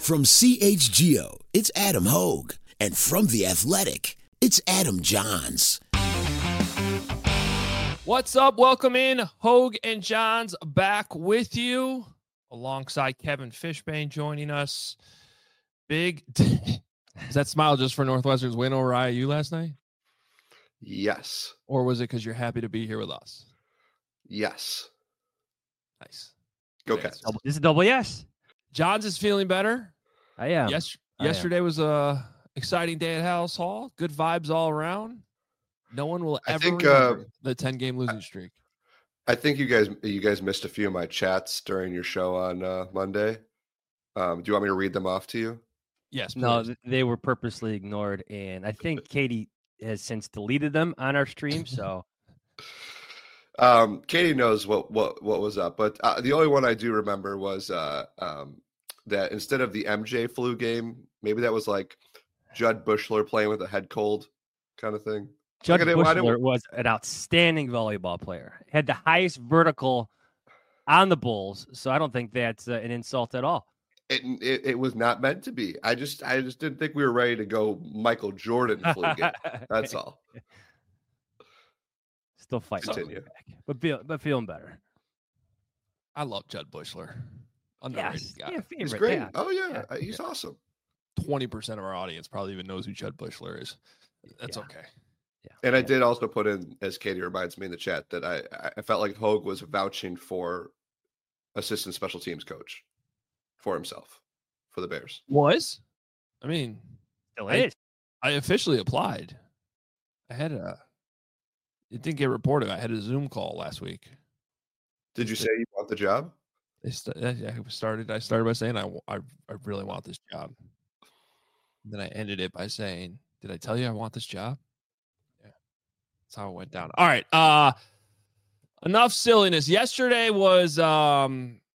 From CHGO, it's Adam Hogue. And from The Athletic, it's Adam Johns. What's up? Welcome in. Hogue and Johns back with you alongside Kevin Fishbane joining us. Is that smile just for Northwestern's win over IU last night? Yes. Or was it because you're happy to be here with us? Yes. Nice. Go Cats. This is a double yes. Johns is feeling better. I am. Yesterday was a exciting day at House Hall. Good vibes all around. No one will ever remember the 10-game losing streak. I think you guys missed a few of my chats during your show on Monday. Do you want me to read them off to you? Yes, please. No, they were purposely ignored, and I think Katie has since deleted them on our stream. So, Katie knows what was up, but the only one I do remember was that instead of the MJ flu game, maybe that was like Judd Bushler playing with a head cold kind of thing. Judd Bushler was an outstanding volleyball player. Had the highest vertical on the Bulls, so I don't think that's an insult at all. It was not meant to be. I just didn't think we were ready to go Michael Jordan flu game. That's all. Still fighting, Continue. but feeling better. I love Judd Bushler. Underrated guy. Yeah, He's great. Yeah. Oh yeah, he's awesome. 20% of our audience probably even knows who Judd Bushler is. That's okay. Yeah. And I did also put in, as Katie reminds me in the chat, that I felt like Hogue was vouching for assistant special teams coach for himself for the Bears. Was? I mean, Still is. I officially applied. It didn't get reported. I had a Zoom call last week. Did you say you want the job? I started by saying I really want this job. Then I ended it by saying, "Did I tell you I want this job?" Yeah, that's how it went down. All right, enough silliness. Yesterday was a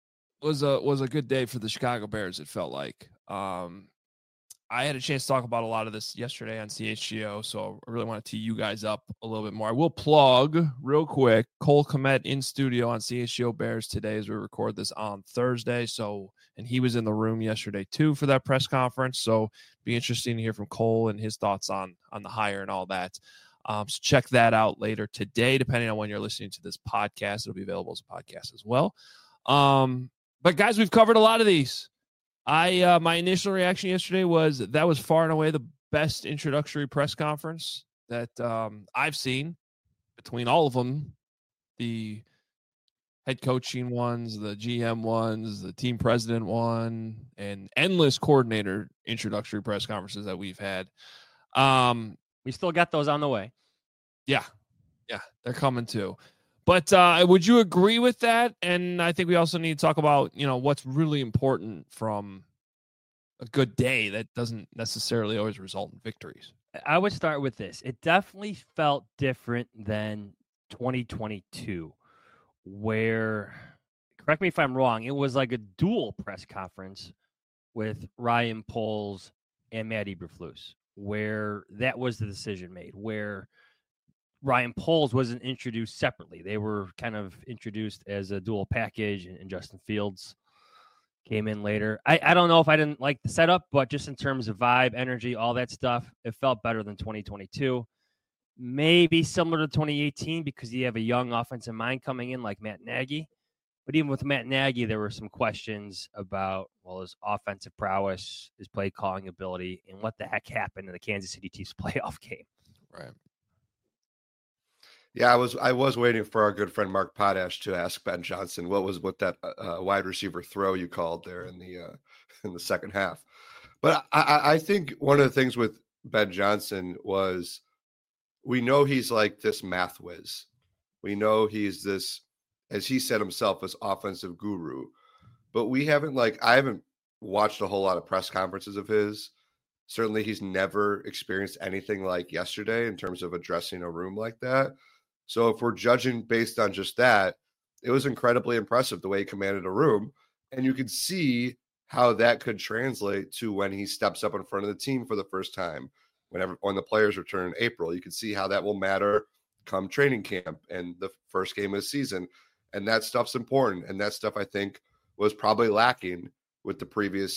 good day for the Chicago Bears. It felt like I had a chance to talk about a lot of this yesterday on CHGO, so I really want to tee you guys up a little bit more. I will plug real quick Cole Kmet in studio on CHGO Bears today as we record this on Thursday. And he was in the room yesterday too for that press conference. So be interesting to hear from Cole and his thoughts on the hire and all that. So check that out later today, depending on when you're listening to this podcast. It'll be available as a podcast as well. But guys, we've covered a lot of these. My initial reaction yesterday was that was far and away the best introductory press conference that I've seen between all of them, the head coaching ones, the GM ones, the team president one, and endless coordinator introductory press conferences that we've had. We still got those on the way. Yeah, they're coming too. But would you agree with that? And I think we also need to talk about, what's really important from a good day that doesn't necessarily always result in victories. I would start with this. It definitely felt different than 2022, where, correct me if I'm wrong, it was like a dual press conference with Ryan Poles and Matt Eberflus, where that was the decision made, where Ryan Poles wasn't introduced separately. They were kind of introduced as a dual package, and Justin Fields came in later. I don't know if I didn't like the setup, but just in terms of vibe, energy, all that stuff, it felt better than 2022. Maybe similar to 2018 because you have a young offensive mind coming in like Matt Nagy. But even with Matt Nagy, there were some questions about, his offensive prowess, his play calling ability, and what the heck happened in the Kansas City Chiefs playoff game. Right. Yeah, I was waiting for our good friend Mark Potash to ask Ben Johnson what that wide receiver throw you called there in the second half. But I think one of the things with Ben Johnson was we know he's like this math whiz. We know he's this, as he said himself, this offensive guru. But I haven't watched a whole lot of press conferences of his. Certainly he's never experienced anything like yesterday in terms of addressing a room like that. So if we're judging based on just that, it was incredibly impressive the way he commanded a room. And you could see how that could translate to when he steps up in front of the team for the first time, when the players return in April. You can see how that will matter come training camp and the first game of the season. And that stuff's important. And that stuff, I think, was probably lacking with the previous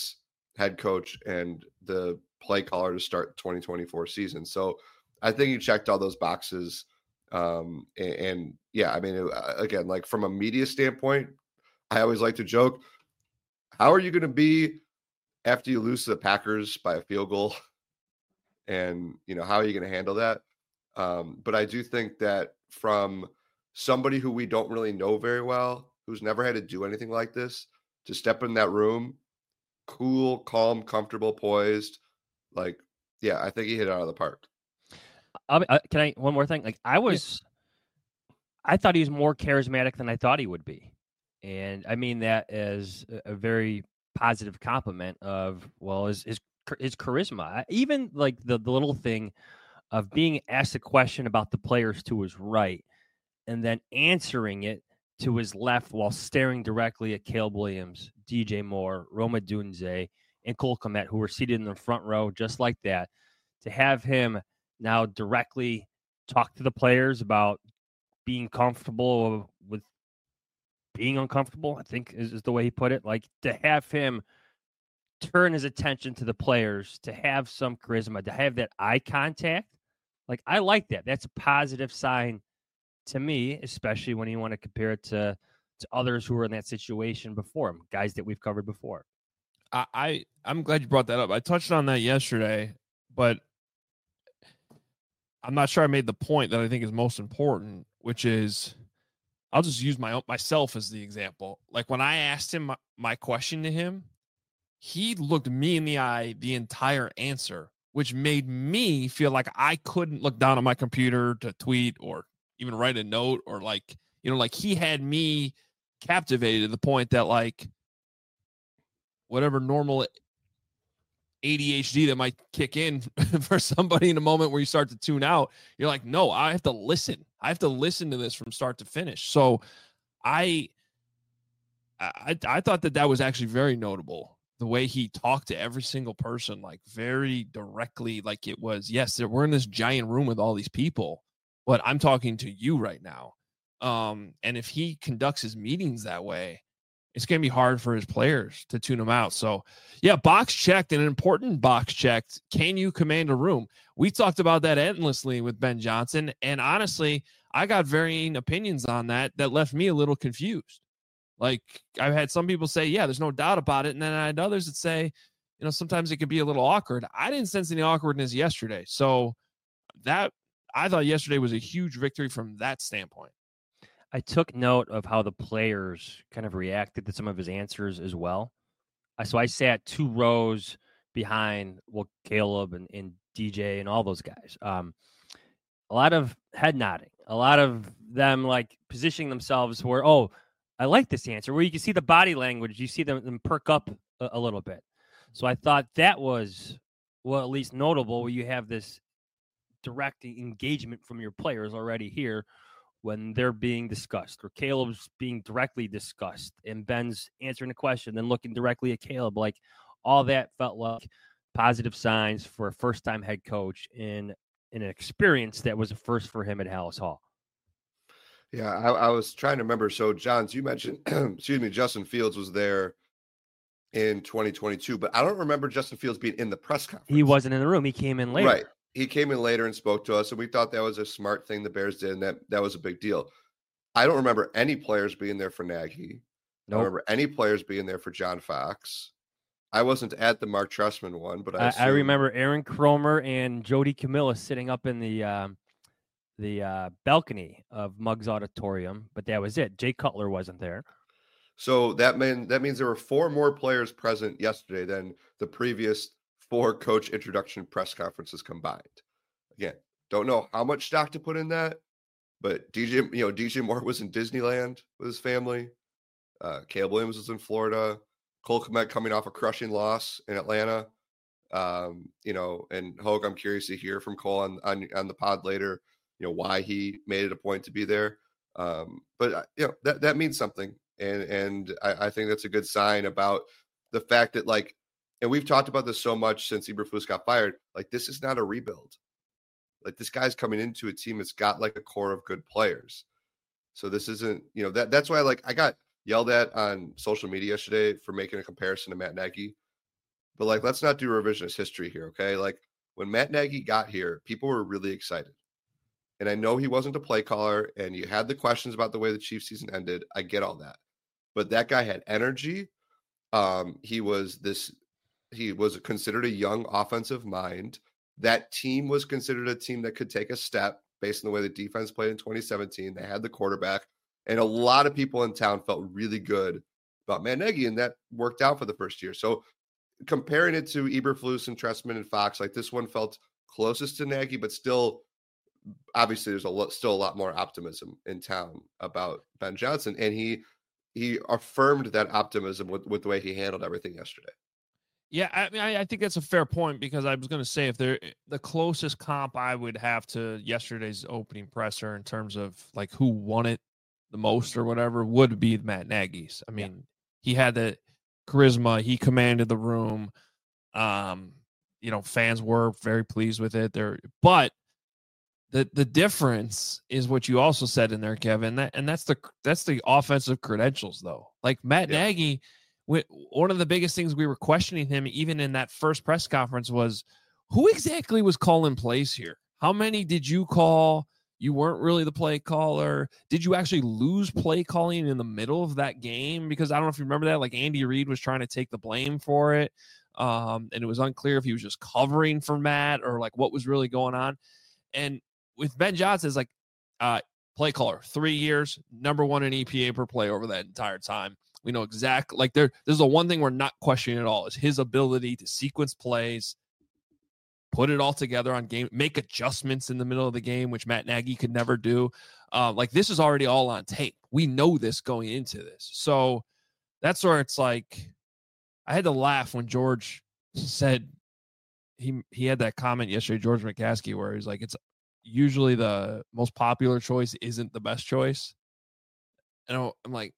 head coach and the play caller to start 2024 season. So I think he checked all those boxes. And yeah, I mean, again, like from a media standpoint, I always like to joke, how are you going to be after you lose to the Packers by a field goal? And, how are you going to handle that? But I do think that from somebody who we don't really know very well, who's never had to do anything like this, to step in that room, cool, calm, comfortable, poised, like, yeah, I think he hit it out of the park. Can I one more thing? Like I thought he was more charismatic than I thought he would be, and I mean that as a very positive compliment of his charisma. Even like the little thing of being asked a question about the players to his right, and then answering it to his left while staring directly at Caleb Williams, DJ Moore, Rome Odunze, and Cole Kmet, who were seated in the front row just like that. To have him now directly talk to the players about being comfortable with being uncomfortable, I think is the way he put it. Like to have him turn his attention to the players, to have some charisma, to have that eye contact. Like I like that. That's a positive sign to me, especially when you want to compare it to others who were in that situation before him, guys that we've covered before. I'm glad you brought that up. I touched on that yesterday, but I'm not sure I made the point that I think is most important, which is I'll just use myself as the example. Like when I asked him my question to him, he looked me in the eye the entire answer, which made me feel like I couldn't look down at my computer to tweet or even write a note or like he had me captivated to the point that like whatever normal ADHD that might kick in for somebody in a moment where you start to tune out, you're like, no, I have to listen. I have to listen to this from start to finish. So I thought that was actually very notable. The way he talked to every single person, like very directly, like it was, yes, we're in this giant room with all these people, but I'm talking to you right now. And if he conducts his meetings that way, it's going to be hard for his players to tune him out. So, yeah, box checked, and an important box checked. Can you command a room? We talked about that endlessly with Ben Johnson, and honestly, I got varying opinions on that left me a little confused. Like, I've had some people say, yeah, there's no doubt about it, and then I had others that say, sometimes it could be a little awkward. I didn't sense any awkwardness yesterday. So that I thought yesterday was a huge victory from that standpoint. I took note of how the players kind of reacted to some of his answers as well. So I sat 2 rows behind Caleb and DJ and all those guys. A lot of head nodding, a lot of them like positioning themselves where, I like this answer, where you can see the body language, you see them perk up a little bit. So I thought that was, at least notable, where you have this direct engagement from your players already here when they're being discussed, or Caleb's being directly discussed, and Ben's answering a question, then looking directly at Caleb. Like all that felt like positive signs for a first-time head coach in an experience that was a first for him at Halas Hall. Yeah, I was trying to remember. So, Johns, you mentioned, Justin Fields was there in 2022, but I don't remember Justin Fields being in the press conference. He wasn't in the room. He came in later. Right. He came in later and spoke to us, and we thought that was a smart thing the Bears did, and that was a big deal. I don't remember any players being there for Nagy. Nope. I don't remember any players being there for John Fox. I wasn't at the Mark Trestman one, but I remember Aaron Cromer and Jody Camilla sitting up in the balcony of Muggs Auditorium, but that was it. Jay Cutler wasn't there. So that means there were 4 more players present yesterday than the previous 4 coach introduction press conferences combined. Again, don't know how much stock to put in that, but DJ Moore was in Disneyland with his family. Caleb Williams was in Florida. Cole Kmet coming off a crushing loss in Atlanta. And Hogue, I'm curious to hear from Cole on the pod later, why he made it a point to be there. But that means something. And I think that's a good sign about the fact that, like, and we've talked about this so much since Eberflus got fired. Like, this is not a rebuild. Like, this guy's coming into a team that's got like a core of good players. So this isn't, that's why, like, I got yelled at on social media yesterday for making a comparison to Matt Nagy. but like, let's not do revisionist history here, okay? Like, when Matt Nagy got here, people were really excited. And I know he wasn't a play caller, and you had the questions about the way the Chiefs season ended. I get all that. But that guy had energy. He was considered a young offensive mind. That team was considered a team that could take a step based on the way the defense played in 2017. They had the quarterback, and a lot of people in town felt really good about Matt Nagy, and that worked out for the first year. So comparing it to Eberflus and Trestman and Fox, like this one felt closest to Nagy, but still, obviously, there's still a lot more optimism in town about Ben Johnson, and he affirmed that optimism with the way he handled everything yesterday. Yeah, I mean, I think that's a fair point, because I was going to say, if they're the closest comp I would have to yesterday's opening presser in terms of like who won it the most or whatever would be Matt Nagy's. I mean, he had the charisma, he commanded the room. Fans were very pleased with it there, but the difference is what you also said in there, Kevin, that's the offensive credentials, though. Like Matt Nagy, one of the biggest things we were questioning him, even in that first press conference, was who exactly was calling plays here? How many did you call? You weren't really the play caller. Did you actually lose play calling in the middle of that game? Because I don't know if you remember that, like Andy Reid was trying to take the blame for it. And it was unclear if he was just covering for Matt or like what was really going on. And with Ben Johnson, it's like play caller, 3 years, number one in EPA per play over that entire time. We know exactly, like there's the one thing we're not questioning at all is his ability to sequence plays, put it all together on game, make adjustments in the middle of the game, which Matt Nagy could never do. Like this is already all on tape. We know this going into this. So that's where it's like, I had to laugh when George said he had that comment yesterday, George McCaskey, where he's like, it's usually the most popular choice isn't the best choice. And I'm like,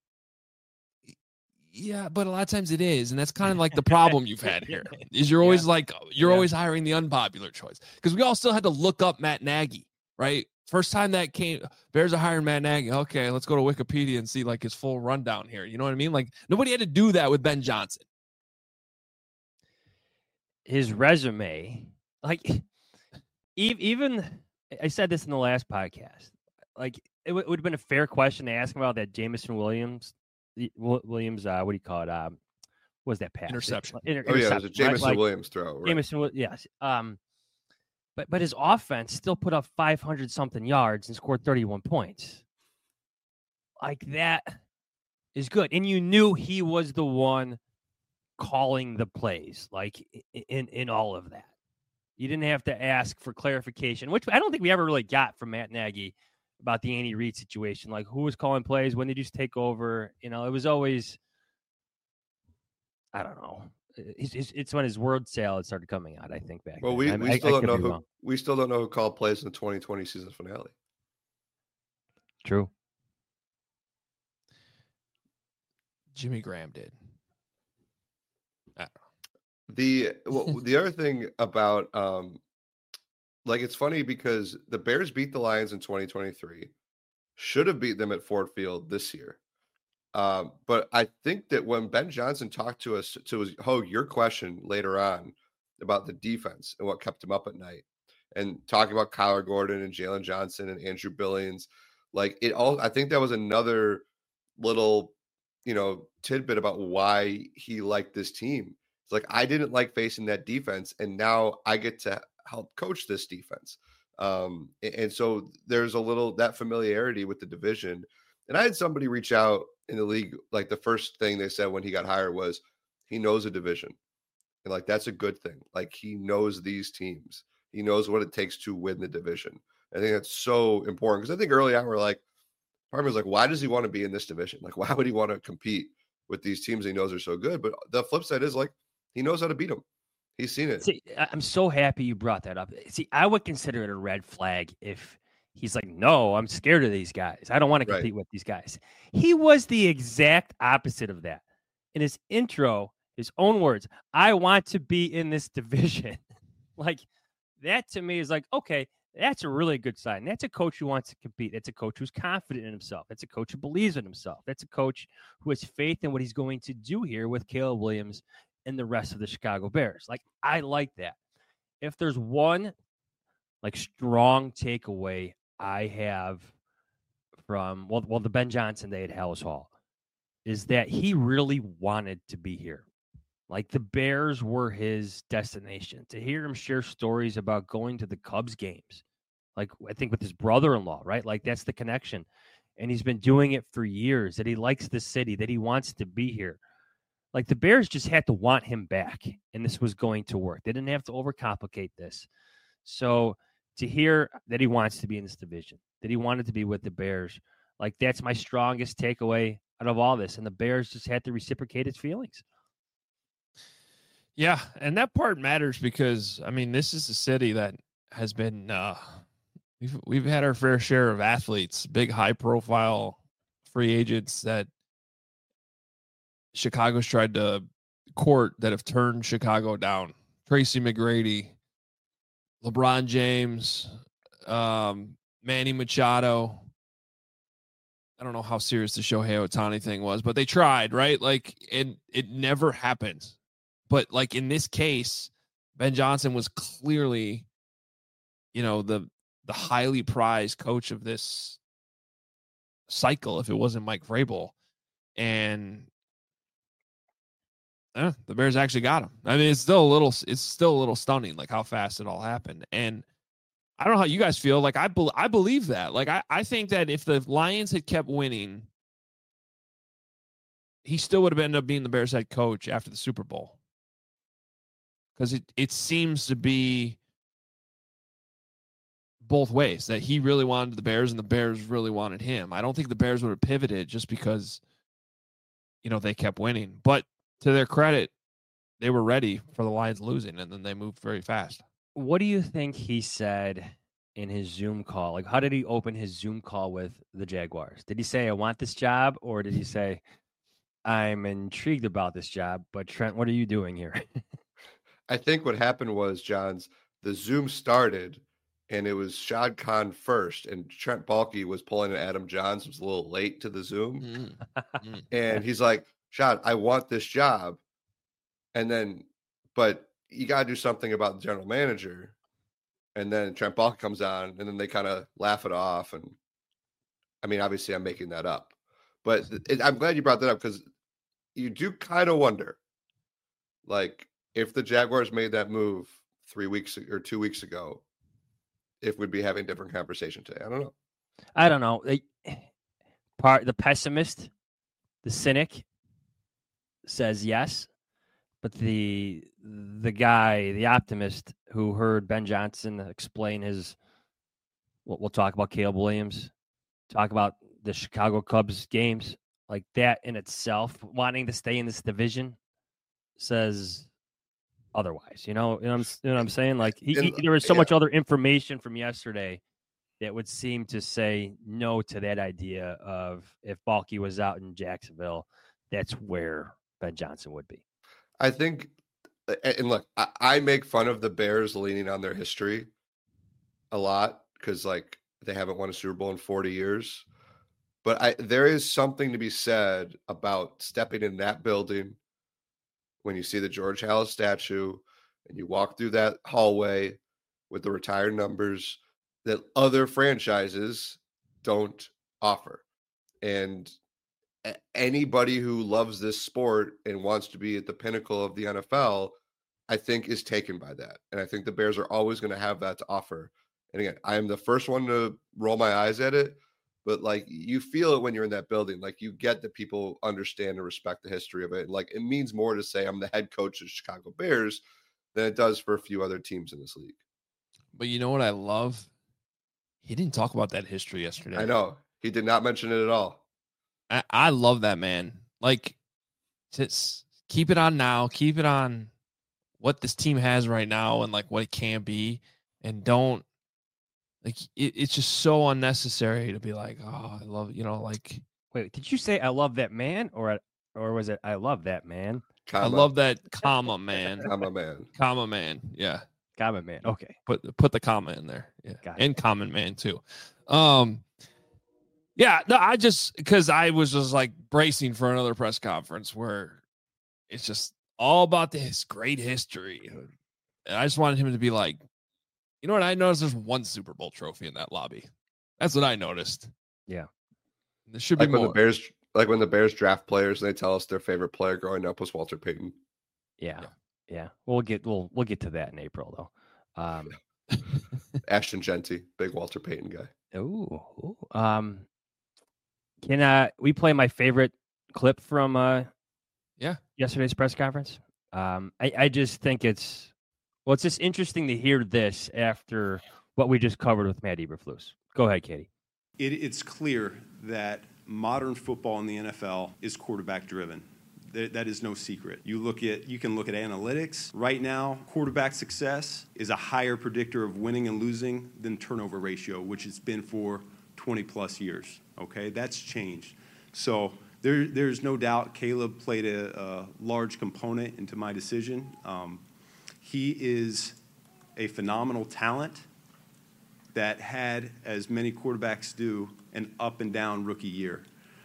yeah, but a lot of times it is. And that's kind of like the problem you've had here is you're always like, always hiring the unpopular choice. Because we all still had to look up Matt Nagy, right? First time that came, Bears are hiring Matt Nagy. Okay, let's go to Wikipedia and see like his full rundown here. You know what I mean? Like nobody had to do that with Ben Johnson. His resume, like even I said this in the last podcast, like it would have been a fair question to ask him about that Jameson Williams, what do you call it? What was that pass? Interception. It was a Jameson Williams throw. Right? Jameson, yes. But his offense still put up 500 something yards and scored 31 points. Like that is good, and you knew he was the one calling the plays, like in all of that. You didn't have to ask for clarification, which I don't think we ever really got from Matt Nagy about the Andy Reid situation. Like, who was calling plays? When did you take over? You know, it was always, I don't know. It's when his word salad started coming out, I think, back well, then. We still don't know who called plays in the 2020 season finale. True. Jimmy Graham did. The other thing about like it's funny because the Bears beat the Lions in 2023, should have beat them at Ford Field this year. But I think that when Ben Johnson talked to us your question later on about the defense and what kept him up at night, and talking about Kyler Gordon and Jalen Johnson and Andrew Billings, like I think that was another little tidbit about why he liked this team. It's like, I didn't like facing that defense, and now I get to help coach this defense. And so there's a little that familiarity with the division. And I had somebody reach out in the league, like the first thing they said when he got hired was he knows a division. And like, that's a good thing. Like, he knows these teams. He knows what it takes to win the division. I think that's so important, because I think early on we're like, part of me was like, why does he want to be in this division? Like, why would he want to compete with these teams he knows are so good? But the flip side is like, he knows how to beat them. He's seen it. See, I'm so happy you brought that up. See, I would consider it a red flag if he's like, no, I'm scared of these guys. I don't want to compete with these guys. He was the exact opposite of that. In his intro, his own words, I want to be in this division. Like, that to me is like, okay, that's a really good sign. That's a coach who wants to compete. That's a coach who's confident in himself. That's a coach who believes in himself. That's a coach who has faith in what he's going to do here with Caleb Williams and the rest of the Chicago Bears. Like, I like that. If there's one like strong takeaway I have from the Ben Johnson day at Hallis Hall is that he really wanted to be here. Like, the Bears were his destination. To hear him share stories about going to the Cubs games, like I think with his brother-in-law, right? Like, that's the connection. And he's been doing it for years, that he likes the city, that he wants to be here. Like, the Bears just had to want him back, and this was going to work. They didn't have to overcomplicate this. So to hear that he wants to be in this division, that he wanted to be with the Bears, like, that's my strongest takeaway out of all this. And the Bears just had to reciprocate his feelings. Yeah, and that part matters because, I mean, this is a city that has been we've had our fair share of athletes, big high-profile free agents that Chicago's tried to court that have turned Chicago down. Tracy McGrady, LeBron James, Manny Machado. I don't know how serious the Shohei Ohtani thing was, but they tried, right? Like, and it never happened. But like in this case, Ben Johnson was clearly, the highly prized coach of this cycle. If it wasn't Mike Vrabel, and the Bears actually got him. I mean, it's still a little stunning, like how fast it all happened. And I don't know how you guys feel. Like, I believe that. Like, I think that if the Lions had kept winning, he still would have ended up being the Bears head coach after the Super Bowl. Because it seems to be both ways, that he really wanted the Bears and the Bears really wanted him. I don't think the Bears would have pivoted just because, they kept winning. But to their credit, they were ready for the Lions losing, and then they moved very fast. What do you think he said in his Zoom call? Like, how did he open his Zoom call with the Jaguars? Did he say, I want this job? Or did he say, I'm intrigued about this job, but Trent, what are you doing here? I think what happened was, Johns, the Zoom started, and it was Shad Khan first, and Trent Baalke was pulling an Adam Johns, was a little late to the Zoom. And he's like, Shad, I want this job. And then, but you got to do something about the general manager. And then Trent Baalke comes on, and then they kind of laugh it off. And I mean, obviously I'm making that up, but I'm glad you brought that up, because you do kind of wonder, like, if the Jaguars made that move 3 weeks or 2 weeks ago, if we'd be having a different conversation today. I don't know. The pessimist, the cynic says yes, but the guy, the optimist who heard Ben Johnson explain we'll talk about Caleb Williams, talk about the Chicago Cubs games, like that in itself, wanting to stay in this division, says otherwise. You know what I'm saying? Like, there was so much other information from yesterday that would seem to say no to that idea of, if Baalke was out in Jacksonville, that's where Ben Johnson would be. I think, and look, I make fun of the Bears leaning on their history a lot, because like they haven't won a Super Bowl in 40 years. But there is something to be said about stepping in that building when you see the George Halas statue and you walk through that hallway with the retired numbers that other franchises don't offer. And anybody who loves this sport and wants to be at the pinnacle of the NFL, I think, is taken by that. And I think the Bears are always going to have that to offer. And again, I am the first one to roll my eyes at it, but like, you feel it when you're in that building. Like, you get that people understand and respect the history of it. Like, it means more to say I'm the head coach of the Chicago Bears than it does for a few other teams in this league. But you know what I love? He didn't talk about that history yesterday. I know. He did not mention it at all. I love that, man. Like, just keep it on now. Keep it on what this team has right now and like what it can be. And don't, like, it's just so unnecessary to be like, oh, I love, like. Wait, did you say I love that man, or was it I love that man? I love that comma man. Comma man. Comma man. Yeah. Comma man. Okay. Put the comma in there. Yeah. And common man too. Yeah, no, because I was just like bracing for another press conference where it's just all about this great history. And I just wanted him to be like, you know what? I noticed there's one Super Bowl trophy in that lobby. That's what I noticed. Yeah. There should be Like when more. the Bears draft players and they tell us their favorite player growing up was Walter Payton. Yeah. We'll get to that in April though. Ashton Genty, big Walter Payton guy. Ooh. Can we play my favorite clip from yesterday's press conference? I just think it's just interesting to hear this after what we just covered with Matt Eberflus. Go ahead, Katie. It's clear that modern football in the NFL is quarterback driven. That is no secret. You can look at analytics. Right now, quarterback success is a higher predictor of winning and losing than turnover ratio, which it's been for 20 plus years. Okay, that's changed. So there's no doubt Caleb played a large component into my decision. He is a phenomenal talent that had, as many quarterbacks do, an up and down rookie year.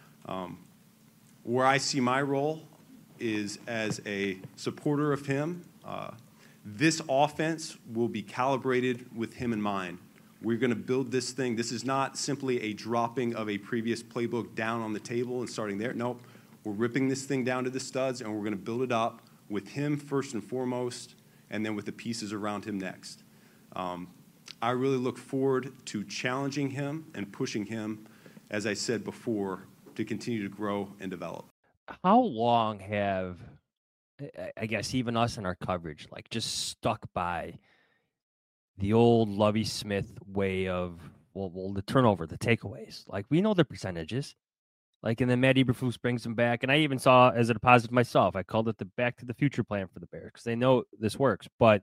Where I see my role is as a supporter of him. This offense will be calibrated with him in mind. We're going to build this thing. This is not simply a dropping of a previous playbook down on the table and starting there. Nope. We're ripping this thing down to the studs, and we're going to build it up with him first and foremost, and then with the pieces around him next. I really look forward to challenging him and pushing him, as I said before, to continue to grow and develop. How long have, I guess, even us in our coverage, like just stuck by the old Lovie Smith way of, well, the turnover, the takeaways? Like, we know the percentages. Like, and then Matt Eberflus brings them back. And I even saw as a deposit myself, I called it the back to the future plan for the Bears because they know this works. But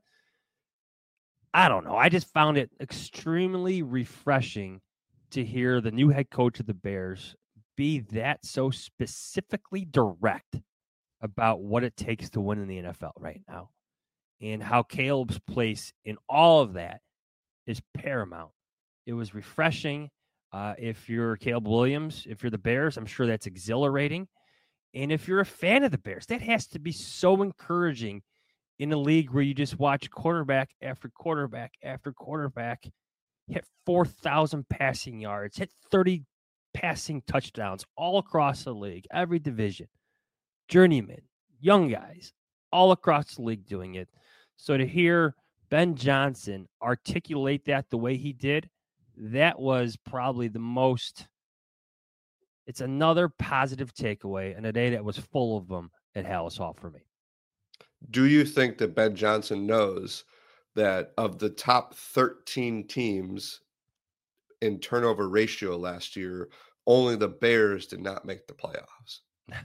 I don't know. I just found it extremely refreshing to hear the new head coach of the Bears be that so specifically direct about what it takes to win in the NFL right now and how Caleb's place in all of that is paramount. It was refreshing. If you're Caleb Williams, if you're the Bears, I'm sure that's exhilarating. And if you're a fan of the Bears, that has to be so encouraging in a league where you just watch quarterback after quarterback after quarterback hit 4,000 passing yards, hit 30 passing touchdowns all across the league, every division, journeymen, young guys, all across the league doing it. So to hear Ben Johnson articulate that the way he did, that was probably the most, it's another positive takeaway in a day that was full of them at Halas Hall for me. Do you think that Ben Johnson knows that of the top 13 teams in turnover ratio last year, only the Bears did not make the playoffs?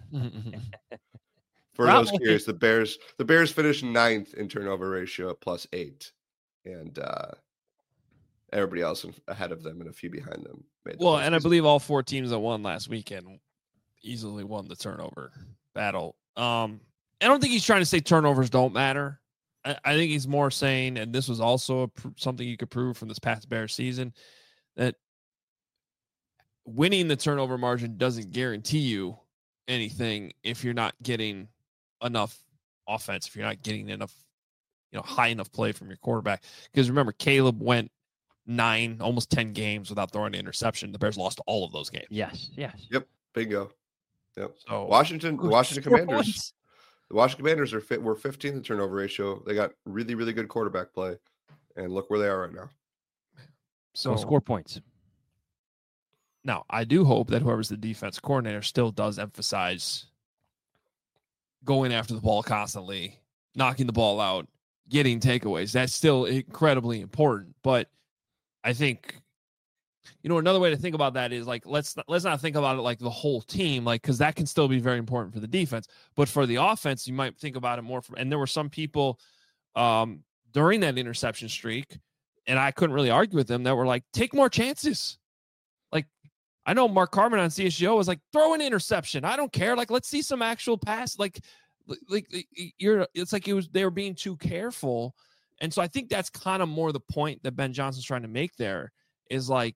For those curious, the Bears finished 9th in turnover ratio at +8, and everybody else ahead of them and a few behind them. And I believe all 4 teams that won last weekend easily won the turnover battle. I don't think he's trying to say turnovers don't matter. I think he's more saying, and this was also something you could prove from this past Bears season, that winning the turnover margin doesn't guarantee you anything if you're not getting enough offense, if you're not getting enough, high enough play from your quarterback. Because remember, Caleb went 9, almost 10 games without throwing an interception. The Bears lost all of those games. Yes. Yep. Bingo. Yep. So the Washington Commanders. The Washington Commanders were 15th in turnover ratio. They got really, really good quarterback play, and look where they are right now. So score points. Now, I do hope that whoever's the defense coordinator still does emphasize going after the ball constantly, knocking the ball out, getting takeaways. That's still incredibly important. But I think, another way to think about that is like, let's not think about it like the whole team, like, because that can still be very important for the defense. But for the offense, you might think about it more from, and there were some people during that interception streak, and I couldn't really argue with them, that were like, take more chances. Like, I know Mark Carman on CSGO was like, throw an interception. I don't care. Like, let's see some actual pass. It's like they were being too careful. And so I think that's kind of more the point that Ben Johnson's trying to make there is like,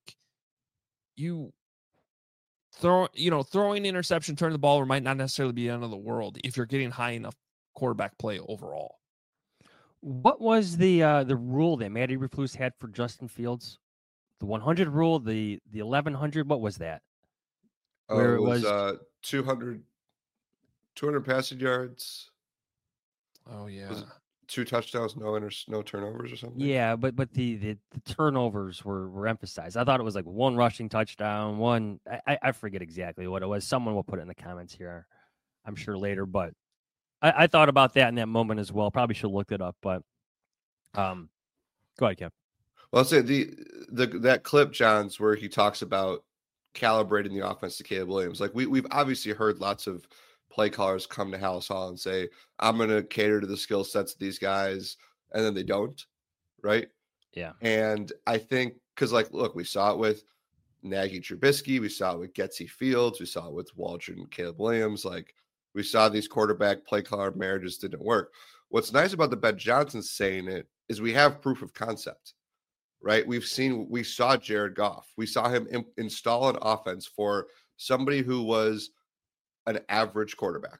throwing interception, turning the ball over might not necessarily be the end of the world if you're getting high enough quarterback play overall. What was the rule that Matty Eberflus had for Justin Fields? The 100 rule, the 1100. What was that? Where it was 200 passing yards. Oh yeah, 2 touchdowns, no turnovers or something. Yeah, but the turnovers were emphasized. I thought it was like 1 rushing touchdown, 1. I forget exactly what it was. Someone will put it in the comments here, I'm sure later. But I thought about that in that moment as well. Probably should have looked it up. But go ahead, Kev. Well, I'll say that clip, Johns, where he talks about calibrating the offense to Caleb Williams. Like we've obviously heard lots of play callers come to Halas Hall and say, I'm going to cater to the skill sets of these guys, and then they don't, right? Yeah. And I think because, like, look, we saw it with Nagy Trubisky, we saw it with Getsy Fields, we saw it with Waldron and Caleb Williams. Like, we saw these quarterback play caller marriages didn't work. What's nice about the Ben Johnson saying it is we have proof of concept, right? We saw Jared Goff. We saw him install an offense for somebody who was an average quarterback,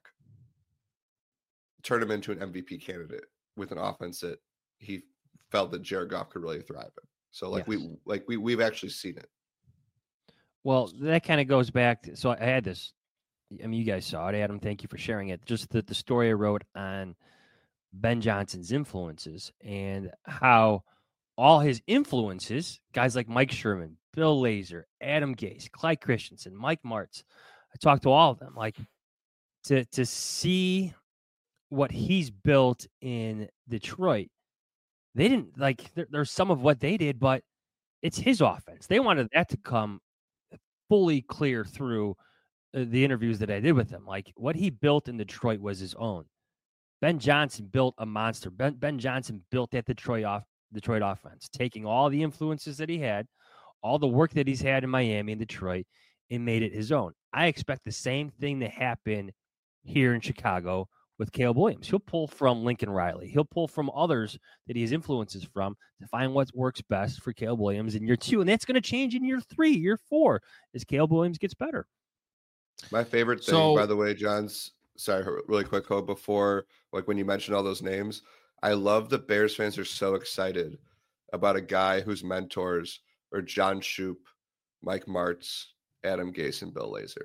turn him into an MVP candidate with an offense that he felt that Jared Goff could really thrive in. So like yes. we've actually seen it. Well, that kind of goes back to, so I had this, I mean, you guys saw it, Adam, thank you for sharing it. Just the story I wrote on Ben Johnson's influences and how all his influences, guys like Mike Sherman, Bill Lazor, Adam Gase, Clyde Christensen, Mike Martz, I talked to all of them, like to see what he's built in Detroit. They didn't like, there's some of what they did, but it's his offense. They wanted that to come fully clear through the interviews that I did with him. Like what he built in Detroit was his own. Ben Johnson built a monster. Ben Johnson built that Detroit offense, taking all the influences that he had, all the work that he's had in Miami and Detroit, and made it his own. I expect the same thing to happen here in Chicago with Caleb Williams. He'll pull from Lincoln Riley. He'll pull from others that he has influences from to find what works best for Caleb Williams in year 2. And that's going to change in year 3, year 4, as Caleb Williams gets better. My favorite thing, by the way, John's, sorry, really quick, Hope, before, like when you mentioned all those names, I love that Bears fans are so excited about a guy whose mentors are John Shoup, Mike Martz, Adam Gase, and Bill Lazor.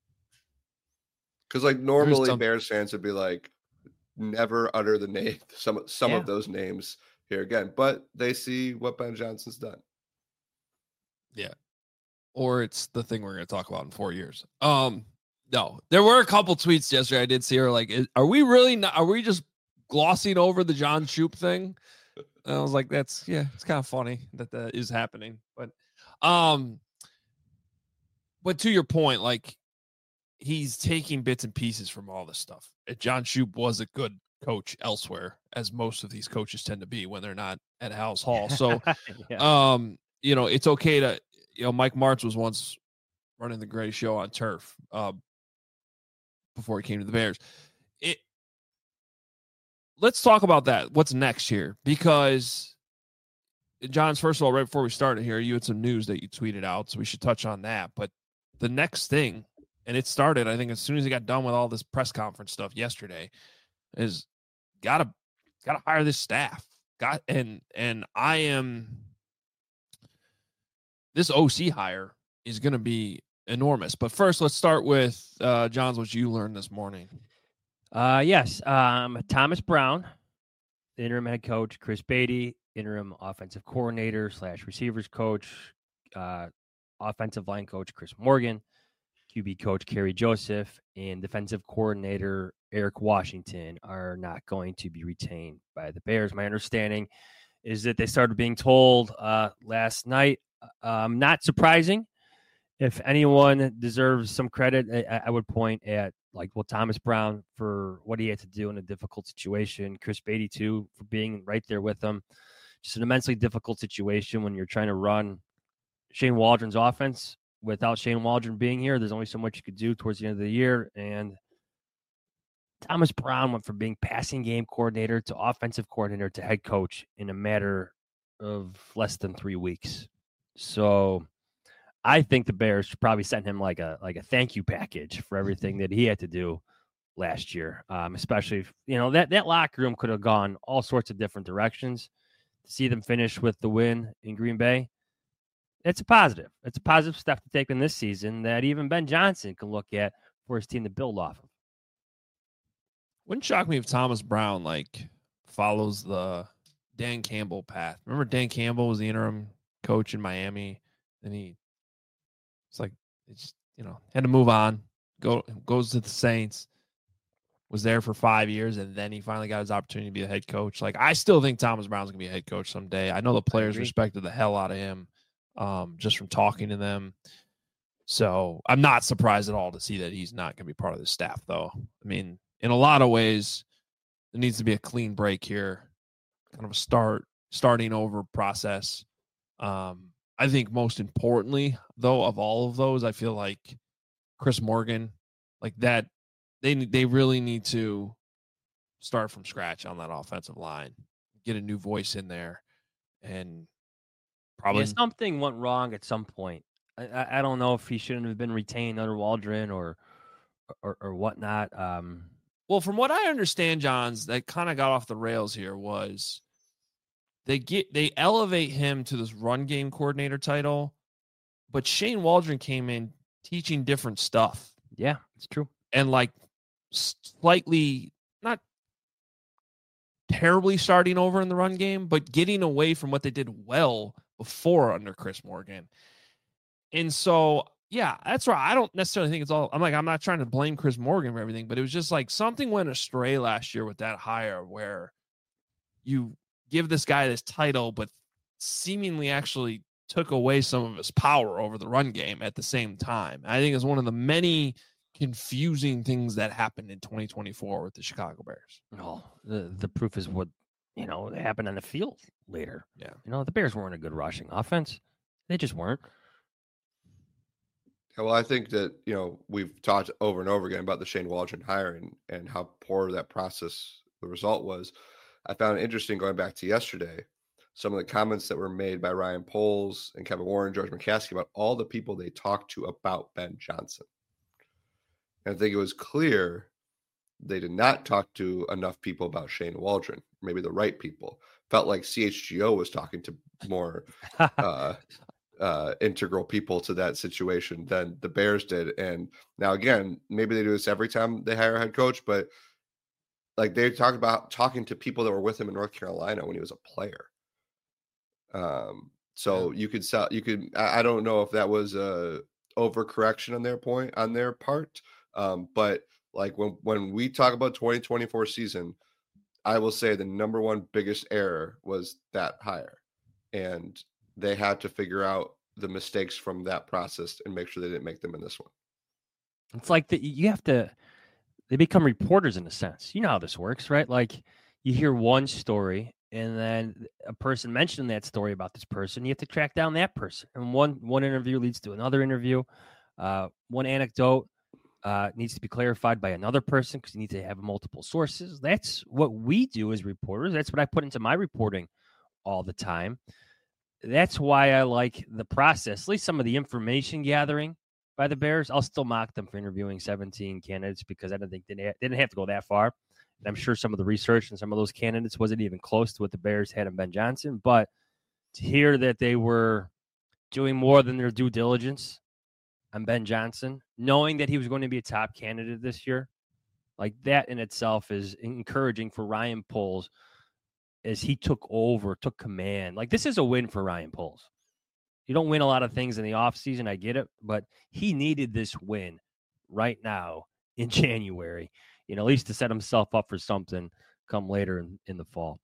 Because like normally Bears fans would be like, never utter the name, some of those names here again, but they see what Ben Johnson's done. Yeah. Or it's the thing we're going to talk about in 4 years. No, there were a couple tweets yesterday I did see her like, are we just glossing over the John Shoup thing? And I was like, it's kind of funny that is happening. But to your point, like he's taking bits and pieces from all this stuff. John Shoup was a good coach elsewhere, as most of these coaches tend to be when they're not at Halas Hall. So, it's okay to, Mike Martz was once running the greatest show on turf before he came to the Bears. Let's talk about that. What's next here? Because, John's, first of all, right before we started here, you had some news that you tweeted out, so we should touch on that. But the next thing, and it started, I think, as soon as he got done with all this press conference stuff yesterday, is gotta hire this staff. This OC hire is going to be enormous. But first, let's start with John's, what you learned this morning. Yes. Thomas Brown, the interim head coach, Chris Beatty, interim offensive coordinator / receivers coach, offensive line coach, Chris Morgan, QB coach, Kerry Joseph, and defensive coordinator, Eric Washington, are not going to be retained by the Bears. My understanding is that they started being told last night. Not surprising. If anyone deserves some credit, I would point at Thomas Brown for what he had to do in a difficult situation. Chris Beatty, too, for being right there with them. Just an immensely difficult situation when you're trying to run Shane Waldron's offense without Shane Waldron being here. There's only so much you could do towards the end of the year. And Thomas Brown went from being passing game coordinator to offensive coordinator to head coach in a matter of less than 3 weeks. So I think the Bears should probably send him like a thank you package for everything that he had to do last year, especially if, that locker room could have gone all sorts of different directions. To see them finish with the win in Green Bay, it's a positive. It's a positive step to take in this season that even Ben Johnson can look at for his team to build off of. Wouldn't shock me if Thomas Brown follows the Dan Campbell path. Remember Dan Campbell was the interim coach in Miami, and had to move on. Goes to the Saints, was there for 5 years, and then he finally got his opportunity to be a head coach. I still think Thomas Brown's gonna be a head coach someday. I know the players respected the hell out of him, just from talking to them. So I'm not surprised at all to see that he's not gonna be part of the staff, though. I mean, in a lot of ways, there needs to be a clean break here, kind of a starting over process. I think most importantly, though, of all of those, I feel like Chris Morgan, that they really need to start from scratch on that offensive line, get a new voice in there, and probably something went wrong at some point. I don't know if he shouldn't have been retained under Waldron or whatnot. Well, from what I understand, Johns, that kind of got off the rails here was they elevate him to this run game coordinator title, but Shane Waldron came in teaching different stuff. Yeah, it's true. And slightly, not terribly starting over in the run game, but getting away from what they did well before under Chris Morgan. And so, yeah, that's right. I don't necessarily think it's all. I'm not trying to blame Chris Morgan for everything, but it was just something went astray last year with that hire where you give this guy this title, but seemingly actually took away some of his power over the run game at the same time. I think it's one of the many confusing things that happened in 2024 with the Chicago Bears. Oh, the proof is what, happened on the field later. Yeah. The Bears weren't a good rushing offense. They just weren't. Well, I think that, we've talked over and over again about the Shane Waldron hiring and how poor that process, the result was. I found it interesting going back to yesterday, some of the comments that were made by Ryan Poles and Kevin Warren, George McCaskey about all the people they talked to about Ben Johnson. And I think it was clear they did not talk to enough people about Shane Waldron, maybe the right people. Felt like CHGO was talking to more integral people to that situation than the Bears did. And now, again, maybe they do this every time they hire a head coach, but they talked about talking to people that were with him in North Carolina when he was a player. So yeah. I don't know if that was a overcorrection on their part. But when we talk about 2024 season, I will say the number one biggest error was that hire, and they had to figure out the mistakes from that process and make sure they didn't make them in this one. It's they become reporters in a sense. You know how this works, right? You hear one story and then a person mentioned that story about this person. You have to track down that person. And one interview leads to another interview. One anecdote needs to be clarified by another person because you need to have multiple sources. That's what we do as reporters. That's what I put into my reporting all the time. That's why I like the process, at least some of the information gathering by the Bears. I'll still mock them for interviewing 17 candidates because I don't think they didn't have to go that far. And I'm sure some of the research and some of those candidates wasn't even close to what the Bears had in Ben Johnson. But to hear that they were doing more than their due diligence on Ben Johnson, knowing that he was going to be a top candidate this year, that in itself is encouraging for Ryan Poles as he took command. This is a win for Ryan Poles. You don't win a lot of things in the offseason, I get it, but he needed this win right now in January, at least to set himself up for something come later in the fall.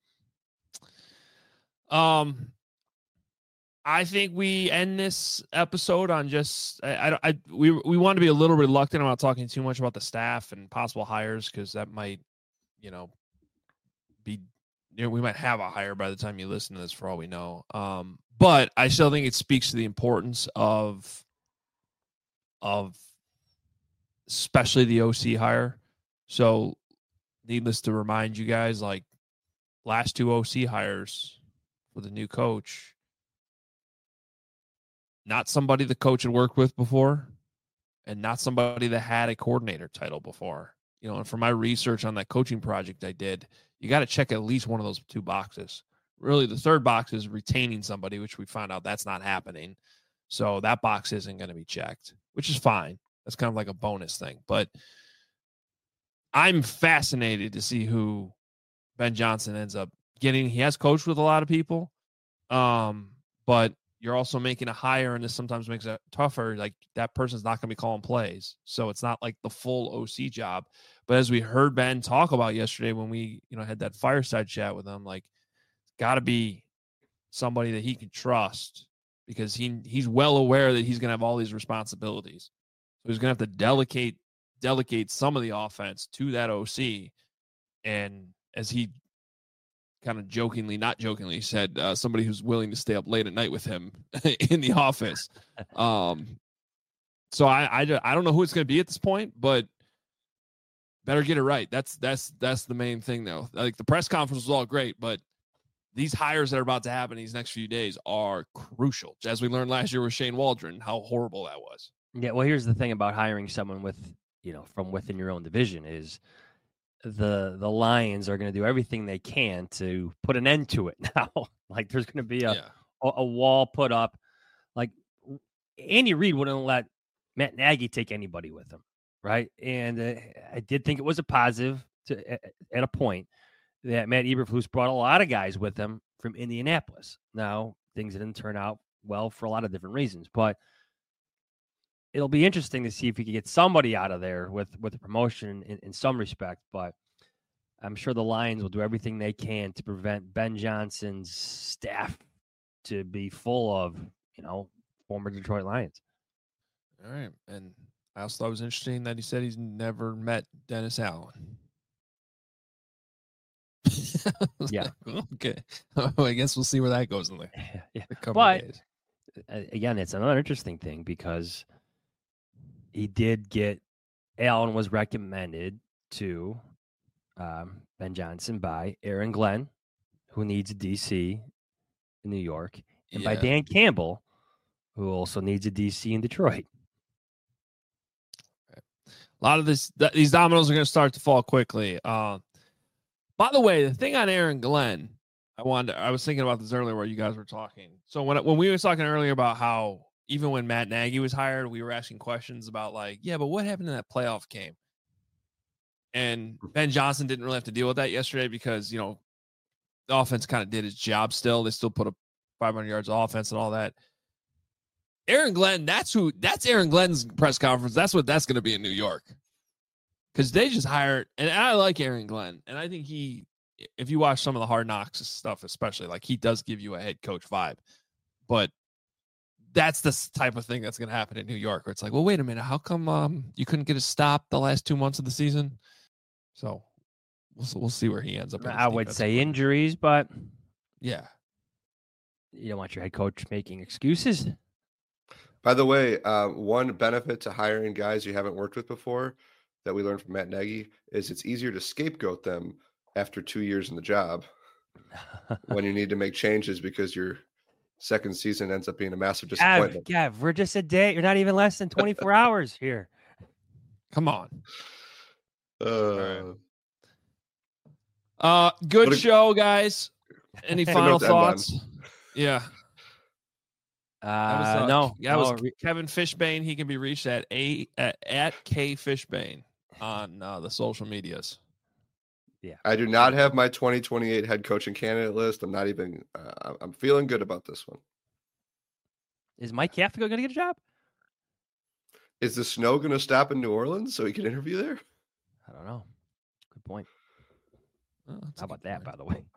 I think we end this episode on just we want to be a little reluctant about talking too much about the staff and possible hires because that might, be we might have a hire by the time you listen to this for all we know. But I still think it speaks to the importance of especially the OC hire. So needless to remind you guys, last two OC hires for the new coach, not somebody the coach had worked with before and not somebody that had a coordinator title before. and for my research on that coaching project I did, you got to check at least one of those 2 boxes. Really, the third box is retaining somebody, which we found out that's not happening. So that box isn't going to be checked, which is fine. That's kind of like a bonus thing. But I'm fascinated to see who Ben Johnson ends up getting. He has coached with a lot of people, but you're also making a hire, and this sometimes makes it tougher. Like, that person's not going to be calling plays. So it's not like the full OC job. But as we heard Ben talk about yesterday when we, had that fireside chat with him, like, got to be somebody that he can trust, because he's well aware that he's going to have all these responsibilities. So he's going to have to delegate some of the offense to that OC. And as he kind of not jokingly said, somebody who's willing to stay up late at night with him in the office. So I don't know who it's going to be at this point, but better get it right. That's the main thing, though. Like, the press conference was all great, but these hires that are about to happen these next few days are crucial. As we learned last year with Shane Waldron, how horrible that was. Yeah, well, here's the thing about hiring someone with, from within your own division is the Lions are going to do everything they can to put an end to it now. Like, there's going to be a wall put up. Like, Andy Reid wouldn't let Matt Nagy take anybody with him, right? And I did think it was a positive at a point that Matt Eberflus brought a lot of guys with him from Indianapolis. Now, things didn't turn out well for a lot of different reasons, but it'll be interesting to see if we can get somebody out of there with a promotion in some respect. But I'm sure the Lions will do everything they can to prevent Ben Johnson's staff to be full of, former Detroit Lions. All right. And I also thought it was interesting that he said he's never met Dennis Allen. Yeah. Okay. I guess we'll see where that goes in the couple days. Again, it's another interesting thing because he did get Allen was recommended to Ben Johnson by Aaron Glenn, who needs a DC in New York, and by Dan Campbell, who also needs a DC in Detroit. A lot of these dominoes are going to start to fall quickly. By the way, the thing on Aaron Glenn, I was thinking about this earlier while you guys were talking. So when we were talking earlier about how even when Matt Nagy was hired, we were asking questions about like, yeah, but what happened in that playoff game? And Ben Johnson didn't really have to deal with that yesterday because, the offense kind of did its job still. They still put up 500 yards of offense and all that. Aaron Glenn, that's Aaron Glenn's press conference. That's what that's going to be in New York. Because they just hired, and I like Aaron Glenn. And I think if you watch some of the Hard Knocks stuff, especially, like, he does give you a head coach vibe. But that's the type of thing that's going to happen in New York, where it's like, well, wait a minute, how come you couldn't get a stop the last 2 months of the season? So we'll see where he ends up. I would say injuries, but yeah, you don't want your head coach making excuses. By the way, one benefit to hiring guys you haven't worked with before that we learned from Matt Nagy is it's easier to scapegoat them after 2 years in the job when you need to make changes because your second season ends up being a massive disappointment. Yeah, we're just a day. You're not even less than 24 hours here. Come on. Good show, guys. Any final thoughts? Yeah. No. Kevin Fishbane. He can be reached at K Fishbane on the social medias. Yeah. I do not have my 2028 head coaching candidate list. I'm not even. I'm feeling good about this one. Is Mike Kafka going to get a job? Is the snow going to stop in New Orleans so he can interview there? I don't know. Good point. Oh, how about that, by the way?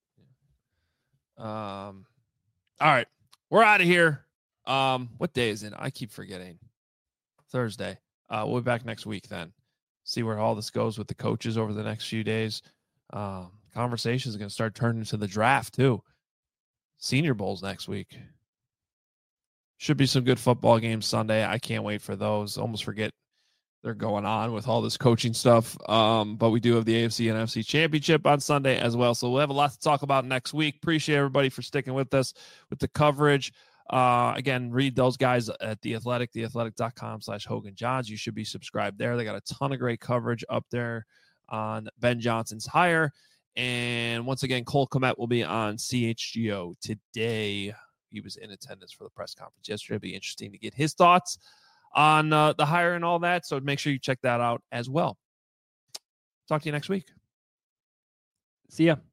All right. We're out of here. What day is it? I keep forgetting. Thursday. We'll be back next week then. See where all this goes with the coaches over the next few days. Conversations are going to start turning into the draft too. Senior Bowls next week. Should be some good football games Sunday. I can't wait for those. Almost forget they're going on with all this coaching stuff. But we do have the AFC and NFC Championship on Sunday as well. So we'll have a lot to talk about next week. Appreciate everybody for sticking with us with the coverage. Again, read those guys at The Athletic, theathletic.com/Hogan Johns. You should be subscribed there. They got a ton of great coverage up there on Ben Johnson's hire. And once again, Cole Kmet will be on CHGO today. He was in attendance for the press conference yesterday. It'll be interesting to get his thoughts on the hire and all that. So make sure you check that out as well. Talk to you next week. See ya.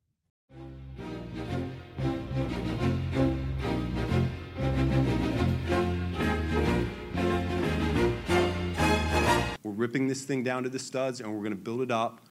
We're ripping this thing down to the studs, and we're going to build it up